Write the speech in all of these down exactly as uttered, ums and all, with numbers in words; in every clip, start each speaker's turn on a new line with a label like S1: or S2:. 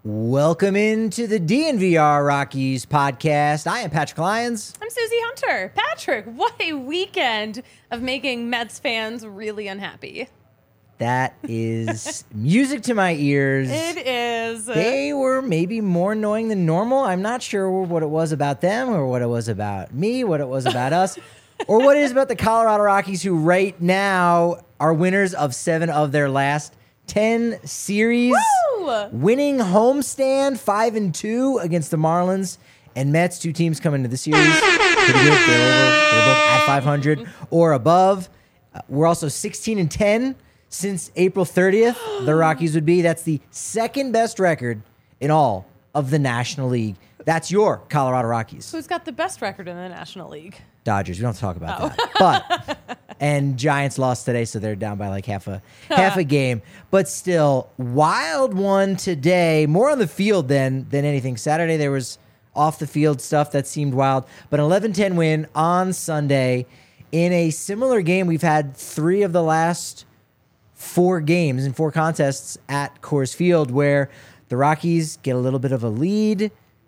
S1: Welcome into the D N V R Rockies podcast. I am Patrick Lyons.
S2: I'm Susie Hunter. Patrick, what a weekend of making Mets fans really unhappy.
S1: That is music to my ears.
S2: It is.
S1: They were maybe more annoying than normal. I'm not sure what it was about them or what it was about me, what it was about us, or what it is about the Colorado Rockies, who right now are winners of seven of their last ten series.
S2: Woo!
S1: Winning homestand five and two against the Marlins and Mets, two teams coming into the series. Pretty good. They're, over, they're both at five hundred or above. Uh, we're also sixteen and ten since April thirtieth. The Rockies would be. That's the second best record in all of the National League. That's your Colorado Rockies.
S2: Who's got the best record in the National League?
S1: Dodgers. We don't have to talk about
S2: Oh.
S1: that. But and Giants lost today, so they're down by like half a half a game. But still, wild one today. More on the field than than anything. Saturday there was off the field stuff that seemed wild. But an eleven ten win on Sunday in a similar game. We've had three of the last four games and four contests at Coors Field where the Rockies get a little bit of a lead.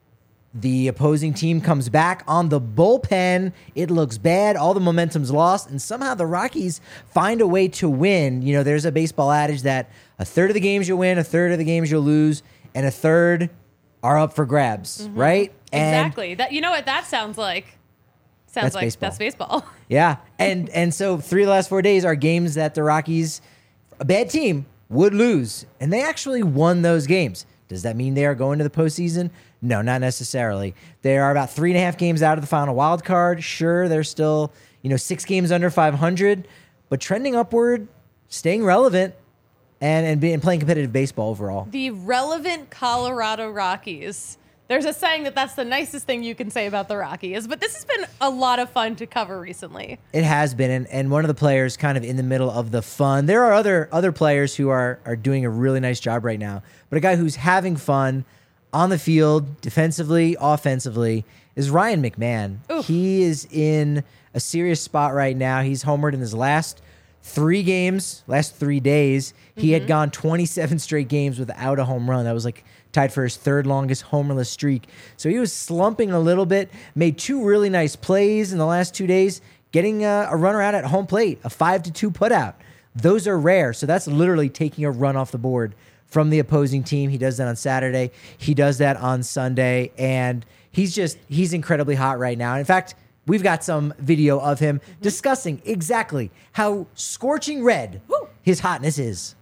S1: The opposing team comes back on the bullpen. It looks bad. All the momentum's lost. And somehow the Rockies find a way to win. You know, there's a baseball adage that a third of the games you'll win, a third of the games you'll lose, and a third are up for grabs, mm-hmm. right? And
S2: exactly. That you know what that sounds like? Sounds
S1: that's
S2: like
S1: baseball.
S2: that's baseball.
S1: Yeah. And and so three of the last four days are games that the Rockies, a bad team, would lose. And they actually won those games. Does that mean they are going to the postseason? No, not necessarily. They are about three and a half games out of the final wild card. Sure, they're still, you know, six games under five hundred, but trending upward, staying relevant, and and, being, playing competitive baseball overall.
S2: The relevant Colorado Rockies. There's a saying that that's the nicest thing you can say about the Rockies, but this has been a lot of fun to cover recently.
S1: It has been, and, and one of the players kind of in the middle of the fun. There are other other players who are are doing a really nice job right now, but a guy who's having fun on the field, defensively, offensively, is Ryan McMahon.
S2: Oof.
S1: He is in a serious spot right now. He's homered in his last three games, last three days. He mm-hmm. had gone twenty-seven straight games without a home run. That was like tied for his third longest homerless streak. So he was slumping a little bit, made two really nice plays in the last two days, getting a, a runner out at home plate, a five to two putout. Those are rare. So that's literally taking a run off the board from the opposing team. He does that on Saturday. He does that on Sunday. And he's just, he's incredibly hot right now. In fact, we've got some video of him mm-hmm. discussing exactly how scorching red Woo. his hotness is.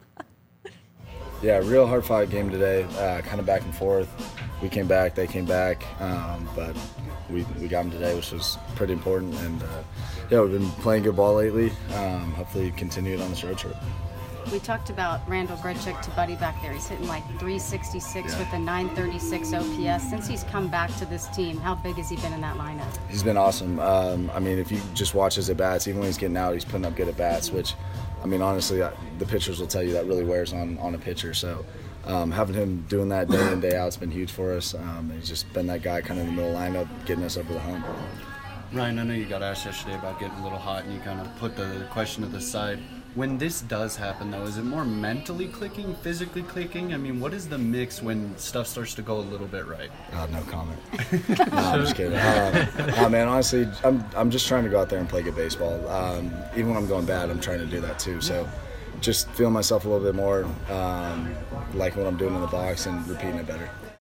S3: Yeah, real hard fight game today, uh, kind of back and forth. We came back, they came back, um, but we we got them today, which was pretty important. And, uh, yeah, we've been playing good ball lately. Um, hopefully continue it on this road trip.
S4: We talked about Randall Grichuk to Buddy back there. He's hitting like three sixty-six yeah. with a nine thirty-six O P S. Since he's come back to this team, how big has he been in that lineup?
S3: He's been awesome. Um, I mean, if you just watch his at-bats, even when he's getting out, he's putting up good at-bats, which, I mean, honestly, I, the pitchers will tell you that really wears on, on a pitcher. So um, having him doing that day in, day out has been huge for us. Um, he's just been that guy kind of in the middle lineup, getting us over the hump.
S5: Ryan, I know you got asked yesterday about getting a little hot, and you kind of put the question to the side. When this does happen, though, is it more mentally clicking, physically clicking? I mean, what is the mix when stuff starts to go a little bit right?
S3: Uh, no comment. No, I'm just kidding. Uh, uh, man, honestly, I'm I'm just trying to go out there and play good baseball. Um, even when I'm going bad, I'm trying to do that too. So just feeling myself a little bit more, um, like what I'm doing in the box and repeating it better.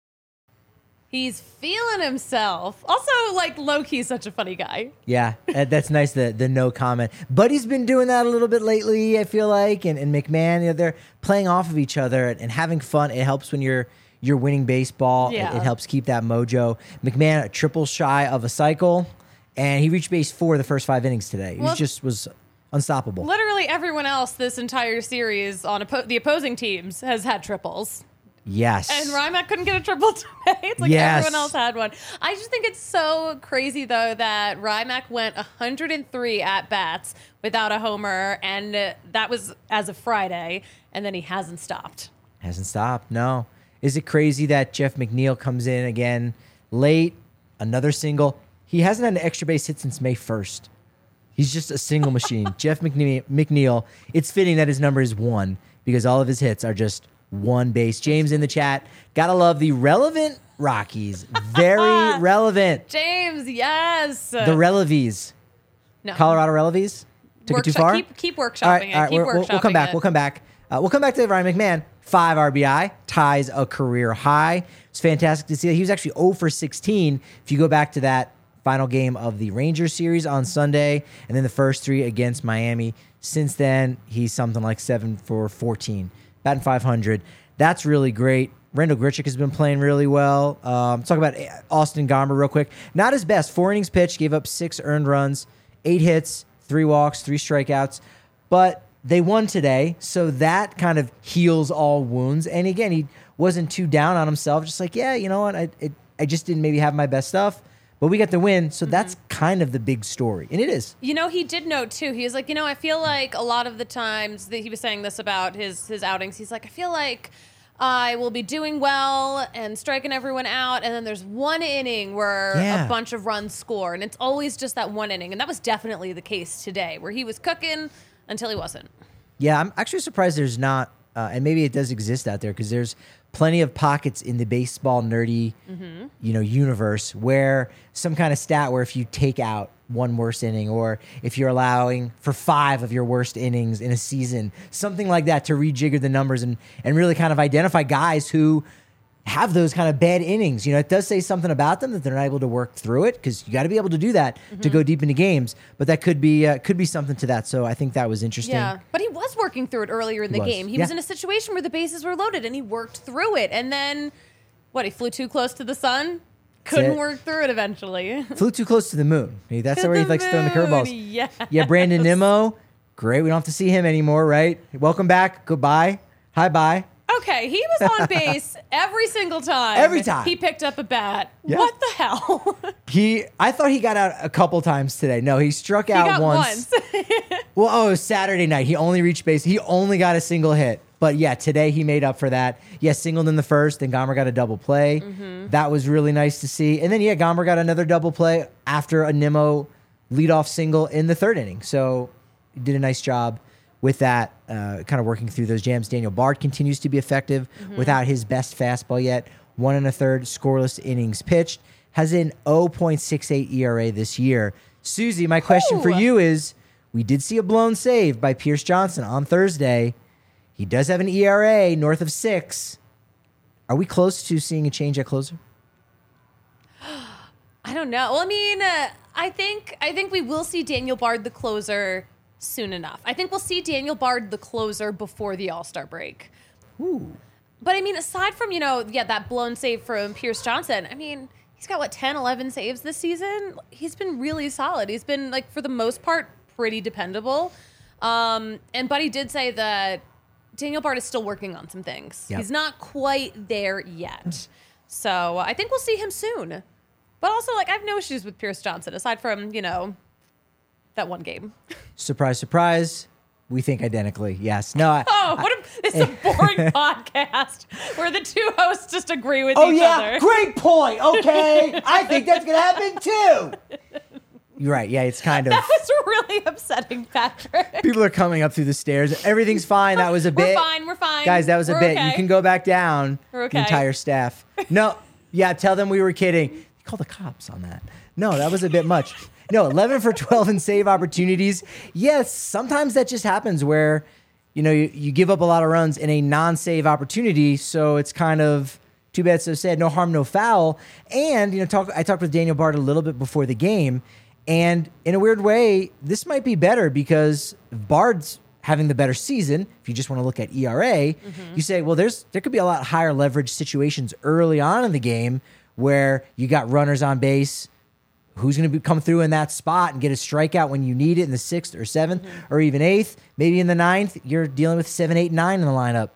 S2: He's feeling himself. Also, like, low-key such a funny guy.
S1: Yeah, that's nice, the the no comment. Buddy's been doing that a little bit lately, I feel like, and, and McMahon, you know, they're playing off of each other and, and having fun. It helps when you're you're winning baseball.
S2: Yeah.
S1: It, it helps keep that mojo. McMahon, a triple shy of a cycle, and he reached base four the first five innings today. He
S2: Well,
S1: was just was unstoppable.
S2: Literally everyone else this entire series on oppo- the opposing teams has had triples.
S1: Yes.
S2: And Rymack couldn't get a triple today. It's like
S1: Yes.
S2: everyone else had one. I just think it's so crazy, though, that Rymack went one hundred three at-bats without a homer, and uh, that was as of Friday, and then he hasn't stopped.
S1: Hasn't stopped, no. Is it crazy that Jeff McNeil comes in again late, another single? He hasn't had an extra base hit since May first. He's just a single machine. Jeff McNeil, McNeil, it's fitting that his number is one because all of his hits are just one base. James in the chat. Gotta love the relevant Rockies. Very relevant.
S2: James, yes.
S1: The Relevies.
S2: no.
S1: Colorado Relevies? Took it too
S2: Workshop-
S1: far?
S2: Keep, keep workshopping
S1: All right,
S2: it.
S1: all right,
S2: keep
S1: we're- we'll, we'll come
S2: workshopping
S1: back.
S2: it.
S1: We'll come back. Uh, we'll come back to Ryan McMahon. Five R B I, ties a career high. It's fantastic to see that. He was actually zero for sixteen. If you go back to that final game of the Rangers series on Sunday, and then the first three against Miami. Since then, he's something like seven for fourteen, batting five hundred. That's really great. Randall Grichuk has been playing really well. Um, talk about Austin Gomber real quick. Not his best. Four innings pitched, gave up six earned runs, eight hits, three walks, three strikeouts. But they won today, so that kind of heals all wounds. And again, he wasn't too down on himself. Just like, yeah, you know what? I it, I just didn't maybe have my best stuff. But we got the win, so mm-hmm. that's kind of the big story. And it is.
S2: You know, he did note, too. He was like, you know, I feel like a lot of the times that he was saying this about his, his outings, he's like, I feel like I will be doing well and striking everyone out, and then there's one inning where
S1: yeah.
S2: a bunch of runs score, and it's always just that one inning. And that was definitely the case today, where he was cooking until he wasn't.
S1: Yeah, I'm actually surprised there's not, uh, and maybe it does exist out there, because there's plenty of pockets in the baseball nerdy, mm-hmm. you know, universe where some kind of stat where if you take out one worst inning, or if you're allowing for five of your worst innings in a season, something like that, to rejigger the numbers and and really kind of identify guys who have those kind of bad innings. You know, it does say something about them that they're not able to work through it, because you got to be able to do that mm-hmm. to go deep into games. But that could be uh, could be something to that. So I think that was interesting.
S2: Yeah, but he was working through it earlier in
S1: He
S2: the
S1: was.
S2: game. He
S1: Yeah.
S2: was in a situation where the bases were loaded, and he worked through it. And then, what, he flew too close to the sun? Couldn't
S1: it.
S2: work through it eventually.
S1: Flew too close to the moon. Hey, that's
S2: To
S1: where he
S2: the
S1: likes throwing the curveballs.
S2: moon, yes.
S1: Yeah, Brandon Nimmo. Great. We don't have to see him anymore, right? Welcome back. Goodbye. Hi, bye.
S2: Okay, he was on base every single time.
S1: Every time.
S2: He picked up a bat.
S1: Yeah.
S2: What the hell?
S1: He, I thought he got out a couple times today. No, he struck
S2: he
S1: out
S2: got
S1: once.
S2: once.
S1: Well, oh, it was Saturday night. He only reached base. He only got a single hit. But yeah, today he made up for that. Yeah, singled in the first, then Gomber got a double play. Mm-hmm. That was really nice to see. And then, yeah, Gomber got another double play after a Nimmo leadoff single in the third inning. So he did a nice job with that, uh, kind of working through those jams. Daniel Bard continues to be effective mm-hmm. without his best fastball yet. One and a third scoreless innings pitched. Has an oh point six eight E R A this year. Susie, my question
S2: Ooh.
S1: for you is, we did see a blown save by Pierce Johnson on Thursday. He does have an E R A north of six. Are we close to seeing a change at closer?
S2: I don't know. Well, I mean, uh, I think I think we will see Daniel Bard the closer soon enough. I think we'll see Daniel Bard the closer before the All-Star break.
S1: Ooh.
S2: But I mean, aside from, you know, yeah, that blown save from Pierce Johnson, I mean, he's got what, ten, eleven saves this season? He's been really solid. He's been, like, for the most part, pretty dependable. Um, and Buddy did say that Daniel Bard is still working on some things.
S1: Yep.
S2: He's not quite there yet. So I think we'll see him soon. But also, like, I have no issues with Pierce Johnson, aside from, you know, that one game.
S1: Surprise, surprise. We think identically. Yes. No. I,
S2: Oh, what a, it's a boring podcast where the two hosts just agree with
S1: oh,
S2: each
S1: yeah.
S2: other.
S1: Great point. Okay. I think that's going to happen too. You're right. Yeah, it's kind of.
S2: That was really upsetting, Patrick.
S1: People are coming up through the stairs. Everything's fine. That was a
S2: We're
S1: bit.
S2: fine. We're fine.
S1: Guys, that was a
S2: We're
S1: bit.
S2: okay.
S1: You can go back down.
S2: We're
S1: The
S2: okay.
S1: entire staff. No. Yeah, tell them we were kidding. Call the cops on that. No, that was a bit much. No, eleven for twelve in save opportunities. Yes, sometimes that just happens where, you know, you, you give up a lot of runs in a non-save opportunity, so it's kind of too bad, so sad. No harm, no foul. And, you know, talk. I talked with Daniel Bard a little bit before the game, and in a weird way, this might be better because Bard's having the better season. If you just want to look at E R A, mm-hmm. you say, well, there's there could be a lot higher leverage situations early on in the game where you got runners on base. Who's going to come through in that spot and get a strikeout when you need it in the sixth or seventh mm-hmm. or even eighth? Maybe in the ninth, you're dealing with seven, eight, nine in the lineup.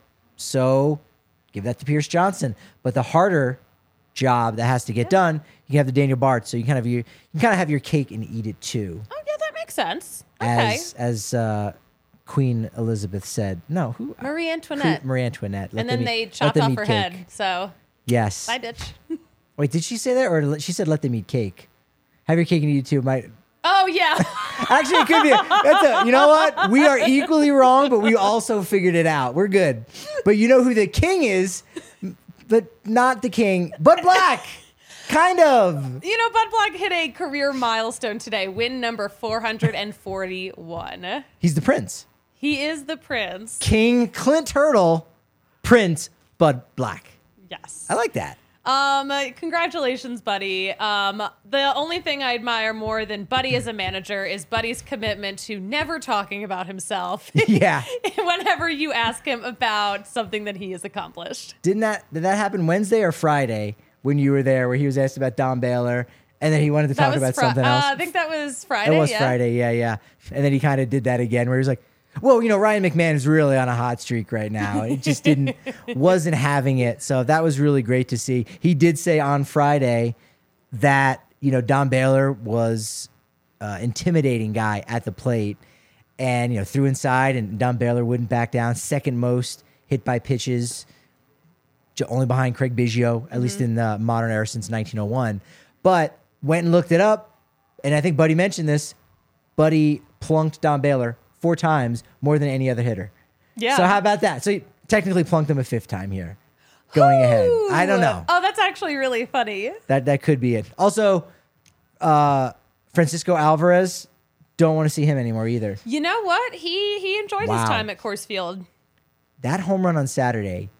S1: So give that to Pierce Johnson. But the harder job that has to get yeah. done, you have the Daniel Bard. So you kind of you, you kind of have your cake and eat it too.
S2: Oh yeah, that makes sense. Okay.
S1: As as uh, Queen Elizabeth said, no, who
S2: Marie Antoinette.
S1: Marie Antoinette. Let
S2: and then
S1: them
S2: they
S1: eat,
S2: chopped off
S1: eat
S2: her
S1: cake.
S2: head. So
S1: yes,
S2: bye, bitch.
S1: Wait, did she say that, or she said let them eat cake? Have your cake and eat it too. My
S2: Oh, yeah.
S1: Actually, it could be. A, that's a, you know what? We are equally wrong, but we also figured it out. We're good. But you know who the king is, but not the king, but Black. Kind of.
S2: You know, Bud Black hit a career milestone today, win number four hundred forty-one.
S1: He's the prince.
S2: He is the prince.
S1: King Clint Hurdle, Prince Bud Black.
S2: Yes.
S1: I like that.
S2: Um, congratulations, Buddy. Um, the only thing I admire more than Buddy as a manager is Buddy's commitment to never talking about himself.
S1: Yeah.
S2: Whenever you ask him about something that he has accomplished.
S1: Didn't that did that happen Wednesday or Friday when you were there, where he was asked about Don Baylor, and then he wanted to
S2: That
S1: talk
S2: was
S1: about
S2: Fri-
S1: something else?
S2: Uh, I think that was Friday.
S1: It was
S2: yeah.
S1: Friday, yeah, yeah. And then he kind of did that again, where he was like, "Well, you know, Ryan McMahon is really on a hot streak right now. It just didn't, wasn't having it." So that was really great to see. He did say on Friday that, you know, Don Baylor was uh, intimidating guy at the plate, and, you know, threw inside, and Don Baylor wouldn't back down. Second most hit by pitches, j- only behind Craig Biggio, at mm-hmm. least in the modern era since nineteen oh one. But went and looked it up, and I think Buddy mentioned this. Buddy plunked Don Baylor four times more than any other hitter.
S2: Yeah.
S1: So how about that? So he technically plunked him a fifth time here, going ahead. I don't know.
S2: Oh, that's actually really funny.
S1: That that could be it. Also, uh, Francisco Alvarez, don't want to see him anymore either.
S2: You know what? He he enjoyed
S1: Wow.
S2: his time at Coors Field.
S1: That home run on Saturday,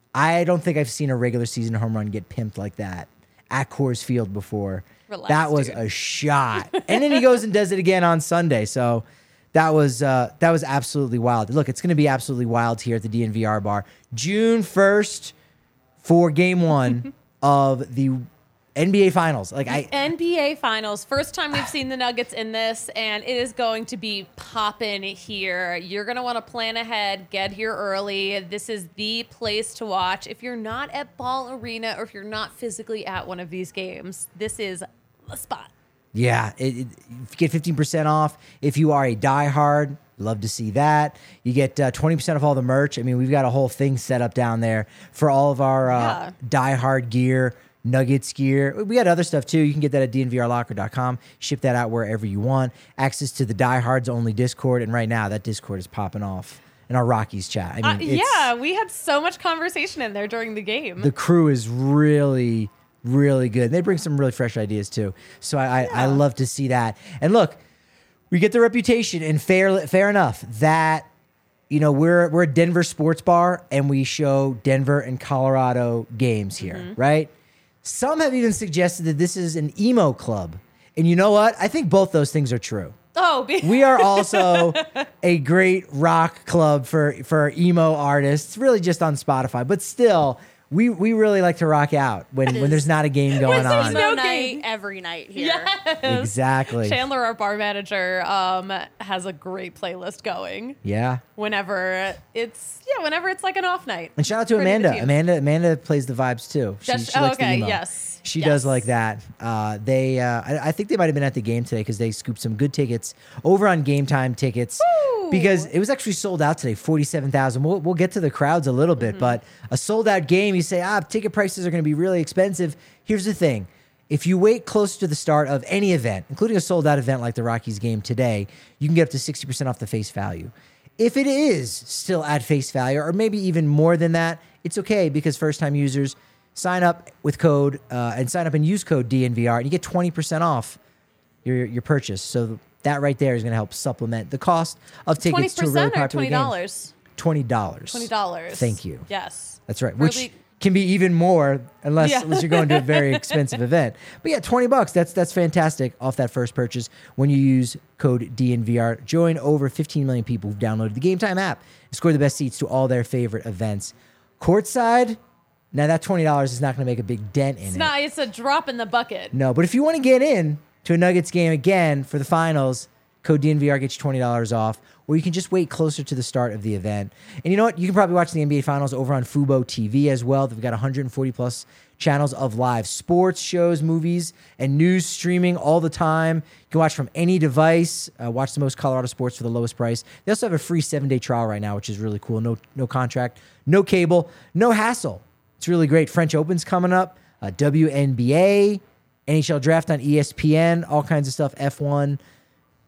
S1: I don't think I've seen a regular season home run get pimped like that at Coors Field before.
S2: Relax,
S1: that was
S2: dude.
S1: a shot. And then he goes and does it again on Sunday. So that was uh, that was absolutely wild. Look, it's going to be absolutely wild here at the D N V R bar. June first for game one of the N B A Finals. Like I
S2: N B A Finals. First time we've seen the Nuggets in this, and it is going to be popping here. You're going to want to plan ahead, get here early. This is the place to watch. If you're not at Ball Arena or if you're not physically at one of these games, this is the spot.
S1: Yeah, it, it, you get fifteen percent off if you are a diehard. Love to see that. You get uh, twenty percent of all the merch. I mean, we've got a whole thing set up down there for all of our uh,
S2: Yeah.
S1: diehard gear, Nuggets gear. We got other stuff too. You can get that at D N V R locker dot com. Ship that out wherever you want. Access to the diehards only Discord. And right now, that Discord is popping off in our Rockies chat. I mean,
S2: Uh,
S1: it's,
S2: yeah, we had so much conversation in there during the game.
S1: the crew is really, really good. They bring some really fresh ideas too. So I, I, I love to see that. And look, we get the reputation, and fair, fair enough, that you know we're we're a Denver sports bar, and we show Denver and Colorado games here,
S2: Mm-hmm.
S1: right? Some have even suggested that this is an emo club, and you know what? I think both those things are true.
S2: oh, be-
S1: We are also a great rock club for for emo artists, really just on Spotify, but still. We we really like to rock out when, when there's not a game going
S2: there's
S1: on.
S2: no
S6: Emo night
S2: game.
S6: every night here.
S1: Exactly.
S2: Chandler, our bar manager, um, has a great playlist going.
S1: Yeah.
S2: Whenever it's yeah, whenever it's like an off night.
S1: And shout out to
S2: Pretty good
S1: Amanda.
S2: team.
S1: Amanda Amanda plays the vibes too. She,
S2: Does-
S1: she
S2: oh,
S1: likes the
S2: okay,
S1: emo.
S2: yes.
S1: She
S2: Yes.
S1: does like that. Uh, they uh, I, I think they might have been at the game today because they scooped some good tickets over on Game Time Tickets.
S2: Woo!
S1: Because it was actually sold out today, forty-seven thousand. We'll, we'll get to the crowds a little bit,
S2: Mm-hmm.
S1: but a sold out game, you say, ah, ticket prices are going to be really expensive. Here's the thing. If you wait close to the start of any event, including a sold out event like the Rockies game today, you can get up to sixty percent off the face value. If it is still at face value, or maybe even more than that, it's okay because first time users sign up with code uh, and sign up and use code D N V R and you get twenty percent off your, your purchase. So that right there is going to help supplement the cost of
S2: Twenty
S1: tickets to a really
S2: percent or
S1: popular
S2: twenty
S1: game.
S2: dollars.
S1: Twenty dollars.
S2: Twenty dollars.
S1: Thank you.
S2: Yes.
S1: That's right.
S2: Really-
S1: Which can be even more unless,
S2: Yeah.
S1: unless you're going to a very expensive event. But yeah, twenty bucks. That's that's fantastic off that first purchase when you use code D N V R. Join over fifteen million people who've downloaded the Game Time app and score the best seats to all their favorite events. Courtside, now that twenty dollars is not going to make a big dent in
S2: It's
S1: it.
S2: not. It's a drop in the bucket.
S1: No, but if you want to get in to a Nuggets game again for the finals, code D N V R gets you twenty dollars off, or you can just wait closer to the start of the event. And you know what? You can probably watch the N B A Finals over on Fubo T V as well. They've got one hundred forty plus channels of live sports, shows, movies, and news streaming all the time. You can watch from any device. Uh, watch the most Colorado sports for the lowest price. They also have a free seven-day trial right now, which is really cool. No, no contract, no cable, no hassle. It's really great. French Open's coming up. Uh, W N B A, N H L Draft on E S P N, all kinds of stuff. F one.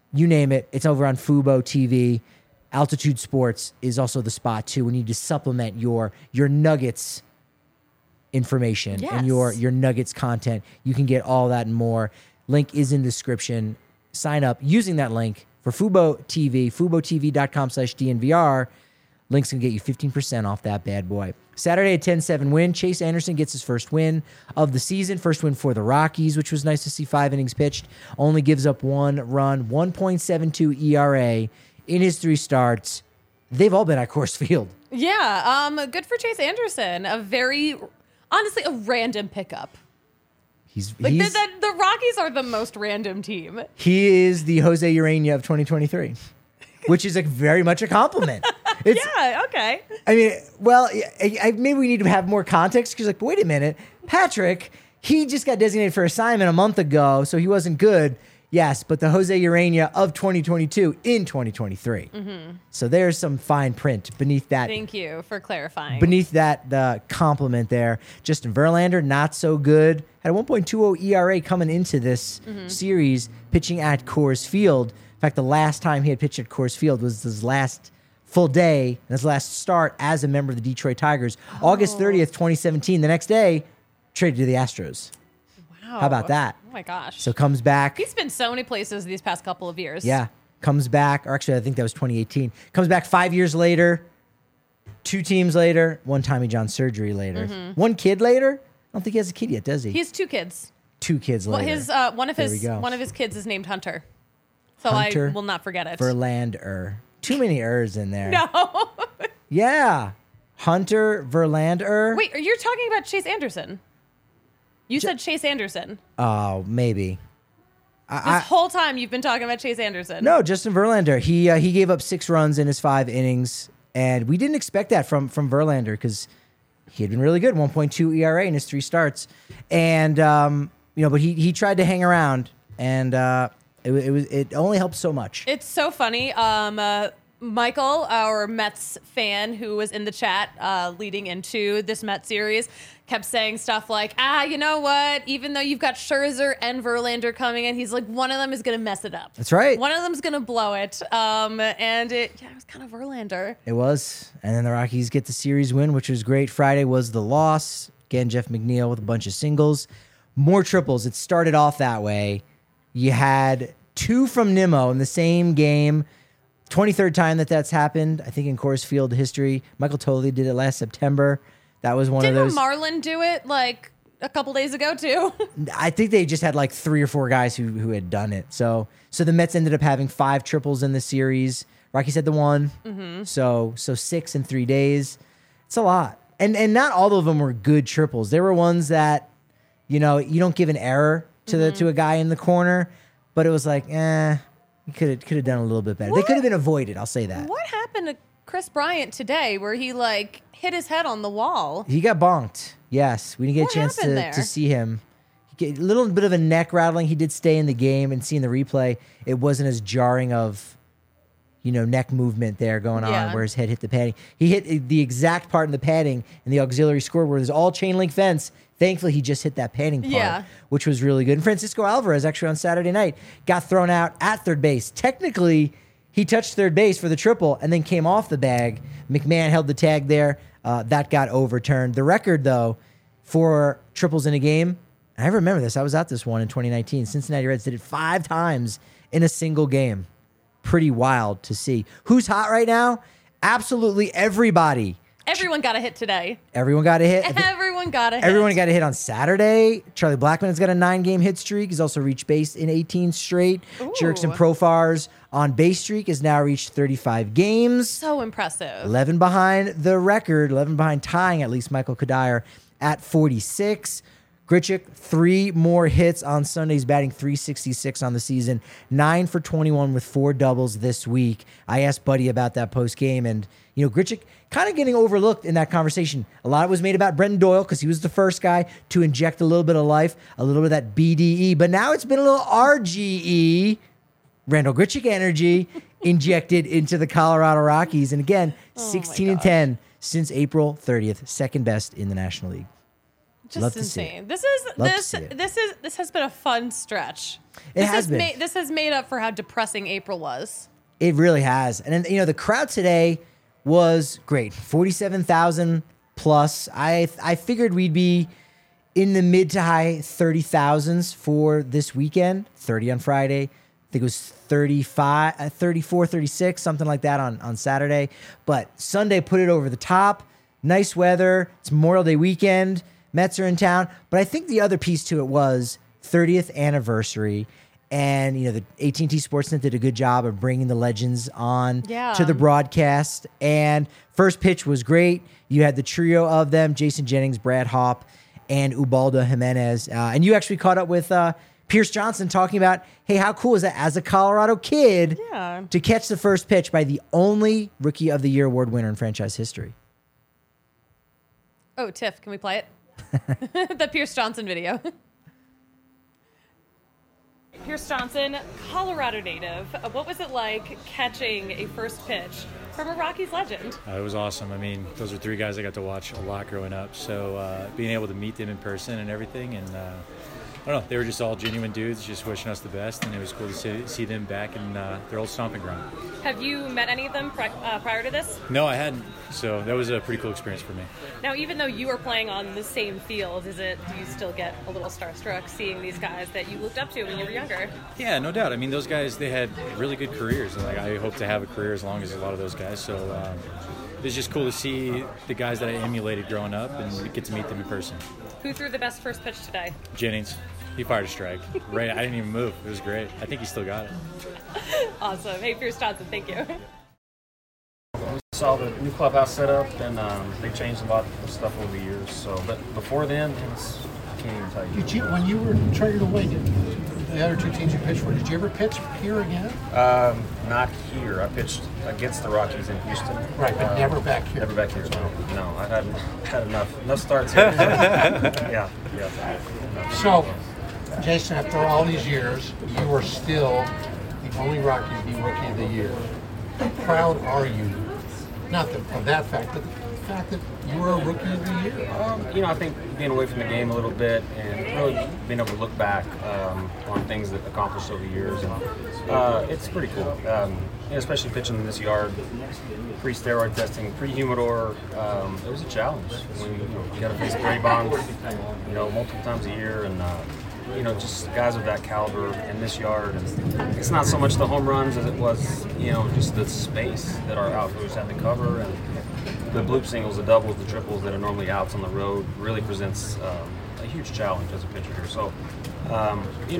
S1: you name it. It's over on Fubo T V. Altitude Sports is also the spot too when you need to supplement your your Nuggets information
S2: Yes.
S1: and your your Nuggets content. You can get all that and more. Link is in the description. Sign up using that link for Fubo T V, FuboTV.com slash DNVR. Link's going to get you fifteen percent off that bad boy. Saturday, a ten seven win. Chase Anderson gets his first win of the season. First win for the Rockies, which was nice to see. Five innings pitched. Only gives up one run. one point seven two E R A in his three starts. They've all been at Coors Field.
S2: Yeah, um, good for Chase Anderson. A very, honestly, a random pickup.
S1: He's,
S2: Like
S1: he's
S2: the, the, the Rockies are the most random team.
S1: he is the Jose Urania of twenty twenty-three, which is a very much a compliment. It's,
S2: Yeah, okay.
S1: I mean, well, I, I, maybe we need to have more context because, like, wait a minute, Patrick, he just got designated for assignment a month ago, so he wasn't good. Yes, but the Jose Urania of twenty twenty-two in twenty twenty-three. Mm-hmm. So there's some fine print beneath that.
S2: Thank you for clarifying.
S1: Beneath that, the compliment there. Justin Verlander, not so good. Had a one point two oh E R A coming into this
S2: Mm-hmm.
S1: series, pitching at Coors Field. In fact, the last time he had pitched at Coors Field was his last full day, and his last start as a member of the Detroit Tigers.
S2: Oh.
S1: August thirtieth, twenty seventeen. The next day, traded to the Astros.
S2: Wow.
S1: How about that?
S2: Oh my gosh.
S1: So comes back.
S2: He's been so many places these past couple of years.
S1: Yeah. Comes back, or actually, I think that was twenty eighteen. Comes back five years later, two teams later, one Tommy John surgery later, one kid later. I don't think he has a kid yet, does he?
S2: He has two kids.
S1: two kids
S2: Well,
S1: later.
S2: his uh, one of
S1: There
S2: his
S1: we go.
S2: one of his kids is named Hunter. So
S1: Hunter
S2: I will not forget it.
S1: Verlander. Too many ers in there.
S2: No.
S1: Yeah. Hunter Verlander.
S2: Wait, you're talking about Chase Anderson. You said Chase Anderson.
S1: Oh, maybe.
S2: This
S1: I, I,
S2: whole time you've been talking about Chase Anderson.
S1: no, Justin Verlander. He uh, he gave up six runs in his five innings, and we didn't expect that from from Verlander because he had been really good, one point two E R A in his three starts, and um, you know, but he he tried to hang around, and uh, it, wa- it was it only helped so much.
S2: It's so funny. Um, uh, Michael, our Mets fan who was in the chat uh, leading into this Mets series, kept saying stuff like, ah, you know what? Even though you've got Scherzer and Verlander coming in, he's like, one of them is going to mess it up.
S1: That's right.
S2: One of them's going to blow it. Um, and it, yeah, it was kind of Verlander.
S1: It was. And then the Rockies get the series win, which was great. Friday was the loss. Again, Jeff McNeil with a bunch of singles. More triples. It started off that way. You had two from Nimmo in the same game. twenty-third time that that's happened, I think, in Coors Field history. Michael Tolley did it last September. That was one
S2: Didn't
S1: of those.
S2: Marlin do it like a couple days ago too?
S1: I think they just had like three or four guys who who had done it. So so the Mets ended up having five triples in the series. Rockies had the one.
S2: Mm-hmm.
S1: So so six in three days. It's a lot. And and not all of them were good triples. There were ones that, you know, you don't give an error to
S2: Mm-hmm.
S1: the to a guy in the corner, but it was like, eh, you could have could have done a little bit better. They
S2: What?
S1: could have been avoided. I'll say that.
S2: What happened to Chris Bryant today where he like hit his head on the wall?
S1: He got bonked. Yes, we didn't get
S2: What
S1: a chance to,
S2: happened there?
S1: to see him. He get a little bit of a neck rattling. He did stay in the game, and seeing the replay, it wasn't as jarring of, you know, neck movement there going on
S2: Yeah.
S1: where his head hit the padding. He hit the exact part in the padding in the auxiliary scoreboard where there's all chain link fence. Thankfully, he just hit that padding part,
S2: Yeah.
S1: which was really good. And Francisco Alvarez, actually on Saturday night, got thrown out at third base. Technically, he touched third base for the triple and then came off the bag. McMahon held the tag there. Uh, that got overturned. The record, though, for triples in a game, I remember this. I was at this one in twenty nineteen. Cincinnati Reds did it five times in a single game. Pretty wild to see. Who's hot right now? Absolutely everybody.
S2: Everyone got a hit today.
S1: Everyone got a hit. I think
S2: Everyone got a hit.
S1: everyone got a hit on Saturday. Charlie Blackmon's got a nine-game hit streak. He's also reached base in eighteen straight. Jerickson Profar's on base streak has now reached thirty-five games.
S2: So impressive.
S1: eleven behind the record, eleven behind tying at least Michael Kadire at forty-six. Grichuk, three more hits on Sundays, batting three sixty-six on the season, nine for twenty-one with four doubles this week. I asked Buddy about that post game, and you know, Grichuk kind of getting overlooked in that conversation. A lot was made about Brenton Doyle because he was the first guy to inject a little bit of life, a little bit of that B D E, but now it's been a little R G E, Randall Grichuk energy, injected into the Colorado Rockies, and again,
S2: Oh my
S1: sixteen and
S2: gosh.
S1: ten since April thirtieth, second best in the National League.
S2: Just
S1: Love to see it.
S2: insane. This is
S1: Love to
S2: this
S1: see it.
S2: this is this has been a fun stretch.
S1: It
S2: this
S1: has been.
S2: Made, this has made up for how depressing April was.
S1: It really has. And then, you know, the crowd today was great. forty-seven thousand plus. I I figured we'd be in the mid to high thirty thousands for this weekend. thirty on Friday. I think it was thirty-five, uh, thirty-four, thirty-six, something like that on, on Saturday. But Sunday put it over the top. Nice weather. It's Memorial Day weekend. Mets are in town. But I think the other piece to it was thirtieth anniversary. And, you know, the A T and T Sportsnet did a good job of bringing the legends on
S2: Yeah.
S1: to the broadcast. And first pitch was great. You had the trio of them, Jason Jennings, Brad Hopp, and Ubaldo Jimenez. Uh, and you actually caught up with uh, Pierce Johnson talking about, hey, how cool is that as a Colorado kid
S2: Yeah.
S1: to catch the first pitch by the only Rookie of the Year award winner in franchise history?
S2: Oh, Tiff, can we play it? The Pierce Johnson video. Pierce Johnson, Colorado native. Uh, What was it like catching a first pitch from a Rockies legend?
S6: Uh, it was awesome. I mean, those are three guys I got to watch a lot growing up. So uh, being able to meet them in person and everything, and uh, I don't know, they were just all genuine dudes, just wishing us the best, and it was cool to see, see them back in uh, their old stomping ground.
S7: Have you met any of them pri- uh, prior to this?
S6: No, I hadn't. So that was a pretty cool experience for me.
S7: Now, even though you are playing on the same field, is it? Do you still get a little starstruck seeing these guys that you looked up to when you were younger?
S6: Yeah, no doubt. I mean, those guys, they had really good careers, and like I hope to have a career as long as a lot of those guys. So um, it's just cool to see the guys that I emulated growing up and get to meet them in person.
S7: Who threw the best first pitch today?
S6: Jennings, he fired a strike. Right, I didn't even move. It was great. I think he still got it.
S7: Awesome. Hey, Pierce Johnson, thank you.
S8: Saw the new clubhouse set up, and um, they changed a lot of stuff over the years. So, but before then, it's, I can't even tell you.
S9: Did you, when you were traded away, did the other two teams you pitched for, did you ever pitch here again?
S8: Um, not here. I pitched against the Rockies in Houston.
S9: Right, but
S8: Uh,
S9: never back here.
S8: Never back here. No, no. I had had enough enough starts here. yeah, yeah. No.
S9: So, Jason, after all these years, you are still the only Rocky to be Rookie of the Year. How proud are you? Not the, of that fact, but the fact that you were a Rookie of the Year.
S8: Um, you know, I think being away from the game a little bit and really being able to look back um, on things that accomplished over the years, and uh, it's pretty cool. Um, you know, especially pitching in this yard, pre-steroid testing, pre-humidor. Um, it was a challenge. When you, you got to face Brady Bonds, you know, multiple times a year, and uh, you know, just guys of that caliber in this yard. And it's not so much the home runs as it was, you know, just the space that our outfielders had to cover, and the bloop singles, the doubles, the triples that are normally outs on the road really presents um, a huge challenge as a pitcher here. So, um, you know,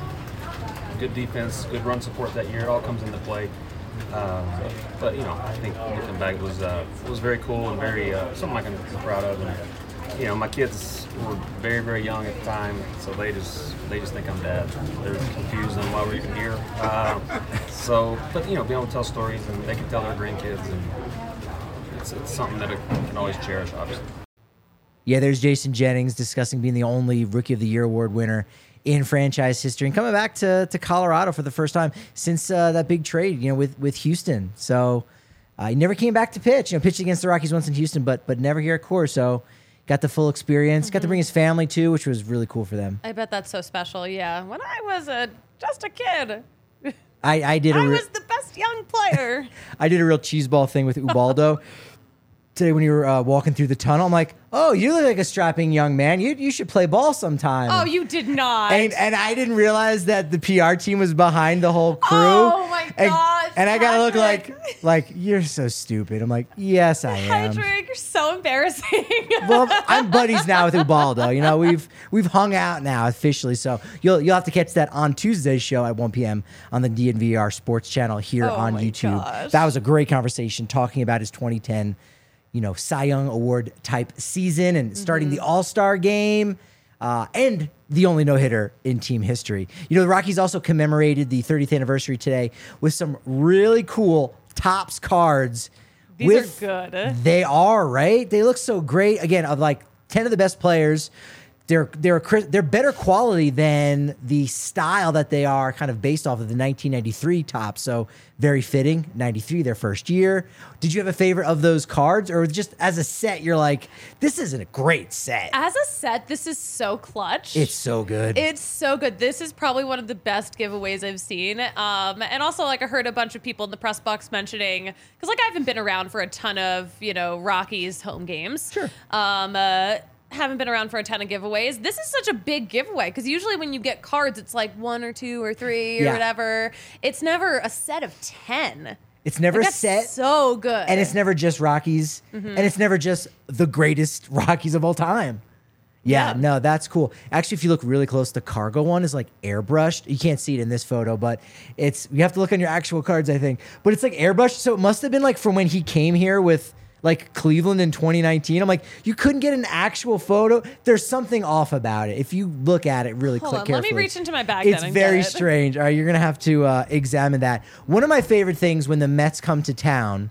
S8: I, good defense, good run support that year. It all comes into play. Um, but you know, I think looking back, it was uh, it was very cool and very uh, something I can be proud of. And you know, my kids were very very young at the time, so they just they just think I'm dad. They're confused on why we're even here. Uh, so, but you know, being able to tell stories, and they can tell their grandkids, and it's, it's something that I can always cherish, obviously.
S1: Yeah, there's Jason Jennings discussing being the only Rookie of the Year award winner in franchise history and coming back to, to Colorado for the first time since uh, that big trade, you know, with, with Houston. So uh, he never came back to pitch. You know, pitched against the Rockies once in Houston, but but never here at Coors. So got the full experience. Mm-hmm. Got to bring his family too, which was really cool for them.
S2: I bet that's so special. Yeah, when I was a just a kid,
S1: I, I did. A
S2: I
S1: re-
S2: was the best young player.
S1: I did a real cheeseball thing with Ubaldo. Today when you were uh, walking through the tunnel, I'm like, oh, you look like a strapping young man. You you should play ball sometime.
S2: Oh, you did not.
S1: And, and I didn't realize that the P R team was behind the whole crew.
S2: Oh, my
S1: and,
S2: gosh,
S1: And I gotta look
S2: Patrick.
S1: like, like, you're so stupid. I'm like, yes, I am.
S2: Patrick, you're so embarrassing.
S1: Well, I'm buddies now with Ubaldo. You know, we've we've hung out now officially. So you'll you'll have to catch that on Tuesday's show at one p.m. on the D N V R Sports Channel here
S2: Oh,
S1: on
S2: my
S1: YouTube.
S2: gosh.
S1: That was a great conversation talking about his twenty ten, you know, Cy Young Award type season and starting the All-Star game uh, and the only no-hitter in team history. You know, the Rockies also commemorated the thirtieth anniversary today with some really cool Topps cards.
S2: These
S1: with,
S2: are good.
S1: They are, right? They look so great. Again, of like ten of the best players, they're they're cri- they're better quality than the style that they are kind of based off of the nineteen ninety-three top. So very fitting. ninety-three, their first year. Did you have a favorite of those cards, or just as a set, you're like, this isn't a great set?
S2: As a set, this is so clutch.
S1: It's so good.
S2: It's so good. This is probably one of the best giveaways I've seen. Um, and also, like, I heard a bunch of people in the press box mentioning, because, like, I haven't been around for a ton of, you know, Rockies home games.
S1: Sure.
S2: Um, uh, haven't been around for a ton of giveaways. This is such a big giveaway because usually when you get cards, it's like one or two or three or
S1: Yeah.
S2: whatever. It's never a set of ten.
S1: It's never
S2: Like,
S1: a
S2: that's
S1: set.
S2: so good.
S1: And it's never just Rockies.
S2: Mhm.
S1: And it's never just the greatest Rockies of all time. Yeah,
S2: Yeah.
S1: no, that's cool. Actually, if you look really close, the cargo one is like airbrushed. You can't see it in this photo, but it's, you have to look on your actual cards, I think. But it's like airbrushed. So it must have been like from when he came here with like Cleveland in twenty nineteen. I'm like, you couldn't get an actual photo. There's something off about it. If you look at it really
S2: Hold
S1: quick
S2: on,
S1: carefully.
S2: let me reach into my bag
S1: It's
S2: then and
S1: very
S2: get it.
S1: strange. All right, you're going to have to uh, examine that. One of my favorite things when the Mets come to town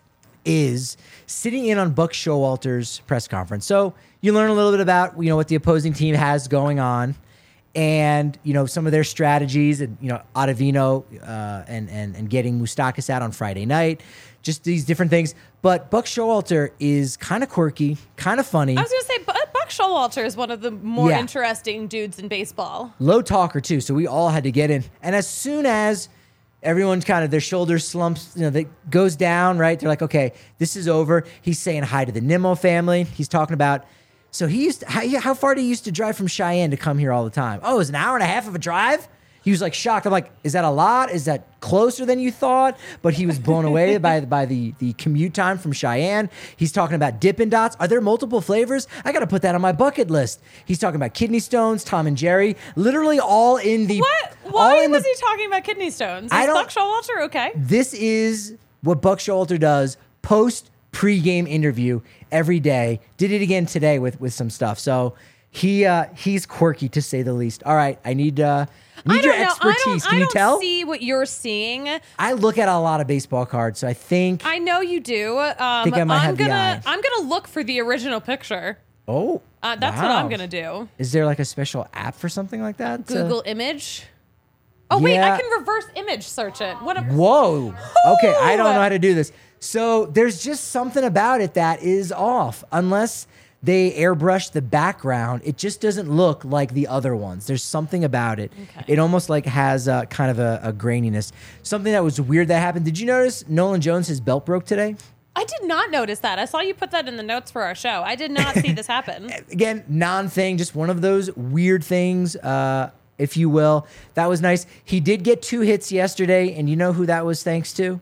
S1: is sitting in on Buck Showalter's press conference. So you learn a little bit about, you know, what the opposing team has going on and, you know, some of their strategies and, you know, Ottavino uh, and, and, and getting Moustakas out on Friday night, just these different things. But Buck Showalter is kind of quirky, kind of funny.
S2: I was going to say, Bu- Buck Showalter is one of the more
S1: Yeah.
S2: interesting dudes in baseball.
S1: Low talker too, so we all had to get in. And as soon as everyone's kind of their shoulders slumps, you know, that goes down, right? They're like, okay, this is over. He's saying hi to the Nimmo family. He's talking about, so he used to, how, how far did he used to drive from Cheyenne to come here all the time? Oh, it was an hour and a half of a drive? He was like shocked. I'm like, is that a lot? Is that closer than you thought? But he was blown away by, by the, the commute time from Cheyenne. He's talking about Dippin' Dots. Are there multiple flavors? I got to put that on my bucket list. He's talking about kidney stones, Tom and Jerry, literally all in the...
S2: What?
S1: all
S2: Why
S1: in
S2: was
S1: the,
S2: he talking about kidney stones? Is
S1: I don't-
S2: Buck Showalter okay?
S1: This is what Buck Showalter does post pre-game interview every day. Did it again today with, with some stuff. So he uh, he's quirky to say the least. All right, I need uh, I need
S2: I
S1: your
S2: don't know.
S1: expertise.
S2: I don't,
S1: Can
S2: I
S1: you
S2: don't
S1: tell?
S2: see what you're seeing.
S1: I look at a lot of baseball cards, so I think.
S2: I know you do. Um,
S1: Think I might
S2: I'm
S1: have the
S2: gonna
S1: eye.
S2: I'm gonna look for the original picture.
S1: oh,
S2: Uh, that's what
S1: wow.
S2: I'm gonna do.
S1: Is there like a special app for something like that? to-
S2: Google image. Oh wait,
S1: Yeah.
S2: I can reverse image search it. What? A,
S1: Whoa. Okay, I don't
S2: Ooh.
S1: know how to do this. So there's just something about it that is off. Unless they airbrush the background, it just doesn't look like the other ones. There's something about it.
S2: Okay.
S1: It almost like has a, kind of a, a graininess. Something that was weird that happened. Did you notice Nolan Jones, his belt broke today?
S2: I did not notice that. I saw you put that in the notes for our show. I did not see this happen.
S1: Again, non-thing, just one of those weird things, uh, if you will. That was nice. He did get two hits yesterday, and you know who that was thanks to?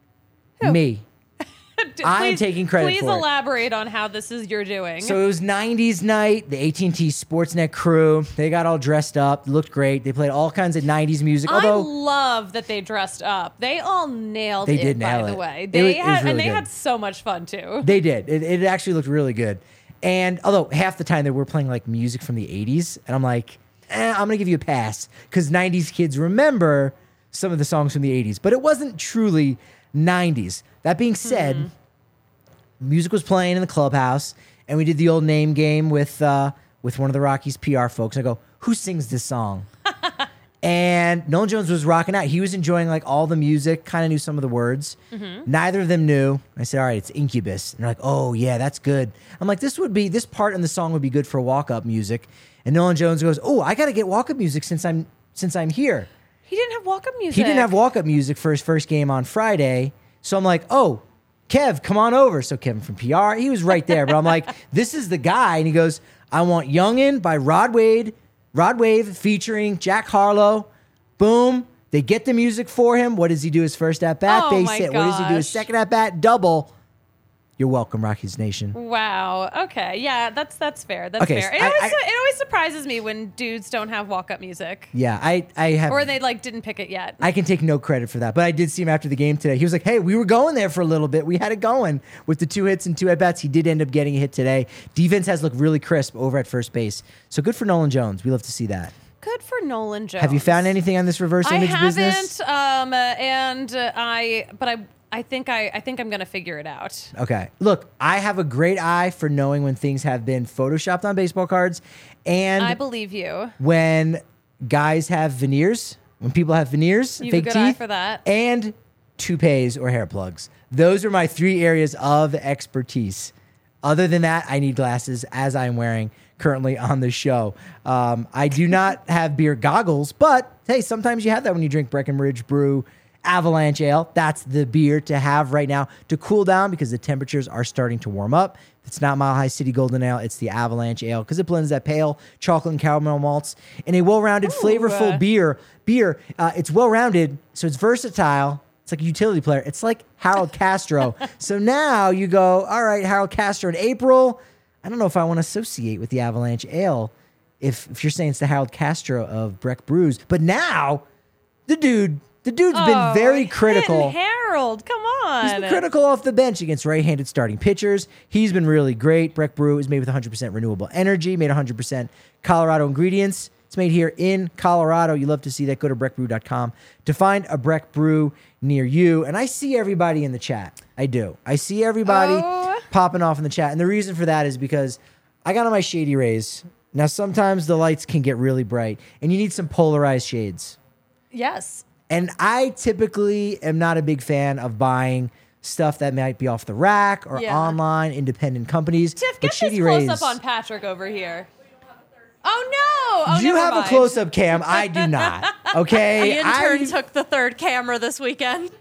S1: Me.
S2: D-
S1: I'm
S2: please-
S1: taking credit
S2: Please
S1: for it.
S2: elaborate on how this is your doing.
S1: So it was nineties night, the A T and T Sportsnet crew. They got all dressed up, looked great. They played all kinds of nineties music.
S2: I
S1: Although
S2: love that they dressed up. They all nailed
S1: They
S2: it,
S1: did
S2: by
S1: nail
S2: the
S1: it.
S2: way.
S1: It
S2: They
S1: was- it was
S2: had
S1: really
S2: and they
S1: good.
S2: had so much fun too.
S1: they did. It, it actually looked really good. And although half the time they were playing like music from the eighties, and I'm like, eh, I'm gonna give you a pass because nineties kids remember some of the songs from the eighties, but it wasn't truly nineties. That being said,
S2: Hmm.
S1: music was playing in the clubhouse, and we did the old name game with uh, with one of the Rockies P R folks. I go, who sings this song? And Nolan Jones was rocking out. He was enjoying like all the music, kind of knew some of the words.
S2: Mm-hmm.
S1: Neither of them knew. I said, all right, it's Incubus. And they're like, oh, yeah, that's good. I'm like, this would be, this part in the song would be good for walk-up music. And Nolan Jones goes, oh, I got to get walk-up music since I'm since I'm here.
S2: He didn't have walk-up music.
S1: He didn't have walk-up music for his first game on Friday. So I'm like, oh, Kev, come on over. So Kevin from P R, he was right there. But I'm like, this is the guy. And he goes, I want Youngin' by Rod Wade, Rod Wave featuring Jack Harlow. Boom. They get the music for him. What does he do his first at-bat?
S2: Oh,
S1: Base
S2: my
S1: hit. What does he do his
S2: gosh.
S1: second at-bat? Double. You're welcome, Rockies Nation.
S2: Wow. Okay. Yeah, that's that's fair. That's
S1: Okay,
S2: fair.
S1: so
S2: It
S1: I-
S2: always
S1: I-
S2: it always surprises me when dudes don't have walk-up music.
S1: Yeah, I, I have...
S2: Or they like didn't pick it yet.
S1: I can take no credit for that, but I did see him after the game today. He was like, hey, we were going there for a little bit. We had it going with the two hits and two at-bats. He did end up getting a hit today. Defense has looked really crisp over at first base. So good for Nolan Jones. We love to see that.
S2: Good for Nolan Jones.
S1: Have you found anything on this reverse
S2: I
S1: image
S2: haven't,
S1: business?
S2: um, uh, and uh, I, but I, I think I, I think I'm gonna figure it out.
S1: Okay. Look, I have a great eye for knowing when things have been photoshopped on baseball cards, and
S2: I believe you.
S1: when guys have veneers, when people have veneers,
S2: You have a
S1: fake
S2: good
S1: teeth,
S2: eye for that.
S1: and toupees or hair plugs. Those are my three areas of expertise. Other than that, I need glasses, as I'm wearing currently on the show. Um, I do not have beer goggles, but hey, sometimes you have that when you drink Breckenridge Brew Avalanche Ale. That's the beer to have right now to cool down because the temperatures are starting to warm up. If it's not Mile High City Golden Ale, it's the Avalanche Ale because it blends that pale chocolate and caramel malts in a well-rounded, flavorful
S2: uh.
S1: beer. Beer, uh, it's well-rounded, so it's versatile. It's like a utility player. It's like Harold Castro. So now you go, all right, Harold Castro in April. I don't know if I want to associate with the Avalanche Ale if, if you're saying it's the Harold Castro of Breck Brews. But now, the dude, the dude's been
S2: Oh,
S1: very critical.
S2: hitting Harold, come on.
S1: He's been critical off the bench against right-handed starting pitchers. He's been really great. Breck Brew is made with one hundred percent renewable energy, made one hundred percent Colorado ingredients. It's made here in Colorado. You love to see that. Go to breck brew dot com to find a Breck Brew near you. And I see everybody in the chat. I do. I see everybody
S2: Oh.
S1: popping off in the chat. And the reason for that is because I got on my Shady Rays. Now, sometimes the lights can get really bright, and you need some polarized shades.
S2: Yes.
S1: And I typically am not a big fan of buying stuff that might be off the rack or
S2: Yeah.
S1: online, independent companies.
S2: Tiff,
S1: But
S2: get this
S1: Shady
S2: close
S1: Rays,
S2: up on Patrick over here. Oh no! Oh,
S1: you
S2: never
S1: have
S2: mind.
S1: a close-up cam. I do not. Okay?
S7: The intern
S1: I-
S7: took the third camera this weekend.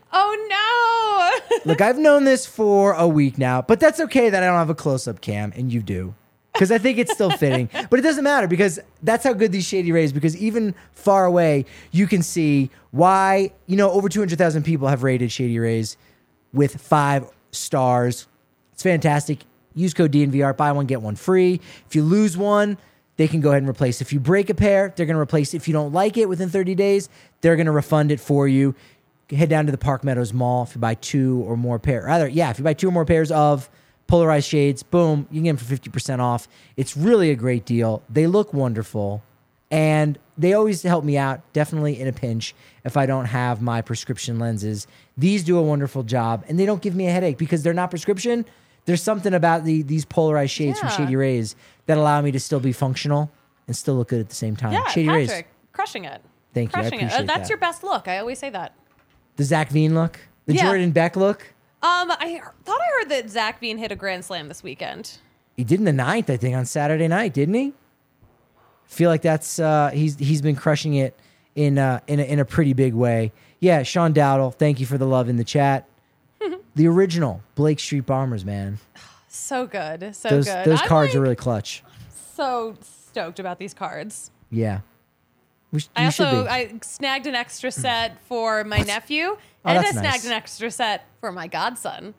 S2: Oh no!
S1: Look, I've known this for a week now, but that's okay that I don't have a close-up cam, and you do. Because I think it's still fitting. But it doesn't matter because that's how good these Shady Rays, because even far away, you can see why, you know, over two hundred thousand people have rated Shady Rays with five stars. It's fantastic. Use code D N V R, buy one, get one free. If you lose one, they can go ahead and replace. If you break a pair, they're going to replace it. If you don't like it within thirty days, they're going to refund it for you. Head down to the Park Meadows Mall. If you buy two or more pair, rather, yeah, if you buy two or more pairs of polarized shades, boom, you can get them for fifty percent off. It's really a great deal. They look wonderful, and they always help me out, definitely in a pinch, if I don't have my prescription lenses. These do a wonderful job, and they don't give me a headache because they're not prescription. There's something about the these polarized shades
S2: Yeah.
S1: from Shady Rays that allow me to still be functional and still look good at the same time.
S2: Yeah,
S1: Shady
S2: Patrick,
S1: Rays.
S2: crushing it.
S1: Thank you. I
S2: Crushing it. Uh,
S1: appreciate
S2: That's
S1: that.
S2: your best look. I always say that.
S1: The Zach Veen look, the
S2: Yeah.
S1: Jordan Beck look.
S2: Um, I he- thought I heard that Zach Veen hit a grand slam this weekend.
S1: He did in the ninth, I think, on Saturday night, didn't he? Feel like that's uh, he's he's been crushing it in uh, in a, in a pretty big way. Yeah, Sean Dowdle, thank you for the love in the chat. The original Blake Street Bombers, man.
S2: So good. So
S1: those
S2: good.
S1: those
S2: I'm,
S1: cards
S2: like,
S1: are really clutch.
S2: so stoked about these cards.
S1: Yeah. We sh-
S2: I
S1: you should
S2: also
S1: be.
S2: I snagged an extra set for my nephew,
S1: Oh,
S2: and I
S1: that's
S2: snagged
S1: nice.
S2: an extra set for my godson.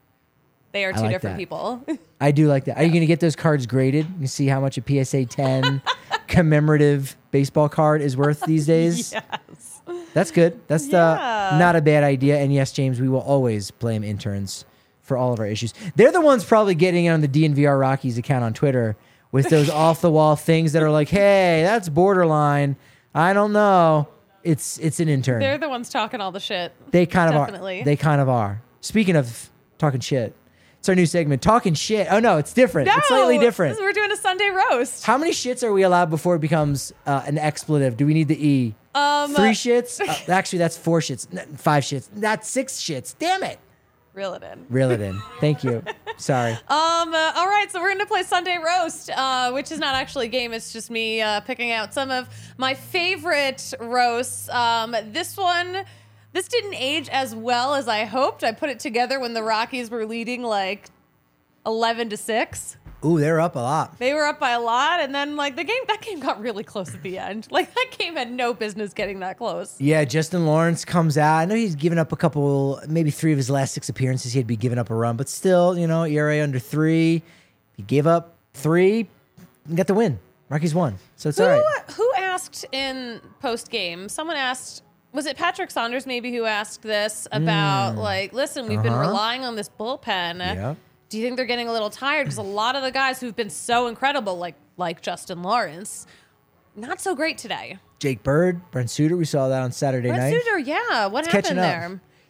S2: They are
S1: I
S2: two
S1: like
S2: different
S1: that.
S2: people.
S1: I do like that. Are you going to get those cards graded? You see how much a P S A ten commemorative baseball card is worth these days?
S2: Yes.
S1: That's good. That's
S2: Yeah.
S1: the, not a bad idea. And yes, James, we will always blame interns for all of our issues. They're the ones probably getting in on the D N V R Rockies account on Twitter with those off-the-wall things that are like, hey, that's borderline. I don't know. It's it's an intern.
S2: They're the ones talking all the shit.
S1: They kind of
S2: Definitely.
S1: are. They kind of are. Speaking of talking shit, it's our new segment, Talking Shit. Oh, no, it's different. it's slightly different.
S2: this is- We're doing a Sunday roast.
S1: How many shits are we allowed before it becomes uh, an expletive? Do we need the E?
S2: Um,
S1: Three shits? Uh, actually, that's four shits. N- Five shits. That's six shits. Damn it.
S2: Reel it in.
S1: Reel it in. Thank you. Sorry.
S2: Um. Uh, all right. So we're going to play Sunday Roast, uh, which is not actually a game. It's just me uh, picking out some of my favorite roasts. Um. This one, this didn't age as well as I hoped. I put it together when the Rockies were leading like eleven to six.
S1: Ooh, they're up a lot.
S2: They were up by a lot, and then like the game, that game got really close at the end. Like that game had no business getting that close.
S1: Yeah, Justin Lawrence comes out. I know he's given up a couple, maybe three of his last six appearances. He'd be giving up a run, but still, you know, E R A under three. He gave up three and got the win. Rockies won. So it's
S2: Who
S1: all right.
S2: who asked in post game? Someone asked. Was it Patrick Saunders maybe who asked this about like, listen, we've been
S1: Uh-huh.
S2: relying on this bullpen.
S1: Yeah.
S2: Do you think they're getting a little tired? Because a lot of the guys who've been so incredible, like like Justin Lawrence, not so great today.
S1: Jake Bird, Brent Suter, we saw that on Saturday
S2: Brent
S1: night.
S2: Suter, yeah. What
S1: It's
S2: happened
S1: catching up.
S2: there?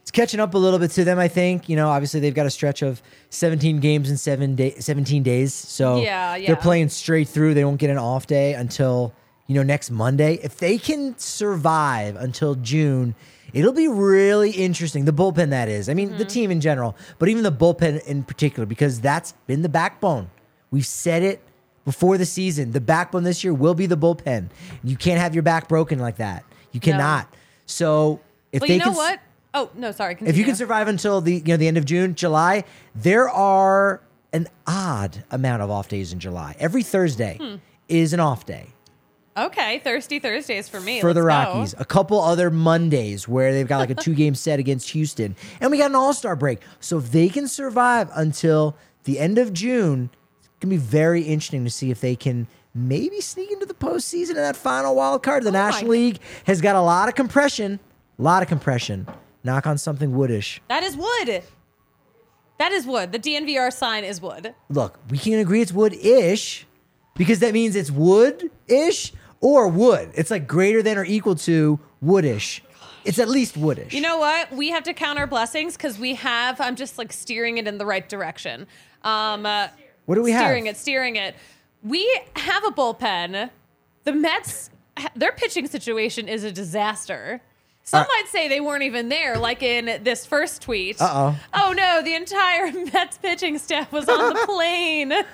S1: it's catching up a little bit to them, I think. You know, obviously they've got a stretch of seventeen games in seven day, seventeen days. So
S2: Yeah, yeah.
S1: they're playing straight through. They won't get an off day until, you know, next Monday. If they can survive until June, it'll be really interesting. The bullpen, that is. I mean,
S2: Mm-hmm.
S1: the team in general, but even the bullpen in particular, because that's been the backbone. We've said it before the season. The backbone this year will be the bullpen. You can't have your back broken like that. You cannot. So if
S2: Well,
S1: they
S2: you know
S1: can,
S2: what? Oh no, sorry.
S1: if
S2: Continue.
S1: you can survive until the you know the end of June, July, there are an odd amount of off days in July. Every Thursday
S2: Hmm.
S1: is an off day
S2: Okay, Thirsty Thursdays for me.
S1: for the
S2: Let's go.
S1: Rockies. A couple other Mondays where they've got like a two game set against Houston, and we got an All Star break. So if they can survive until the end of June, it's gonna be very interesting to see if they can maybe sneak into the postseason in that final wild card. The
S2: Oh my
S1: National League has got a lot of compression, a lot of compression. Knock on something woodish.
S2: That is wood. That is wood. The D N V R sign is wood.
S1: Look, we can agree it's wood-ish because that means it's wood-ish or wood. It's like greater than or equal to woodish. It's at least woodish.
S2: You know what? We have to count our blessings because we have. I'm just like steering it in the right direction. Um, uh,
S1: What do we have?
S2: Steering it, steering it. We have a bullpen. The Mets, their pitching situation is a disaster. Some
S1: Uh,
S2: might say they weren't even there, like in this first tweet.
S1: Uh-oh.
S2: Oh no, the entire Mets pitching staff was on the plane. Oh,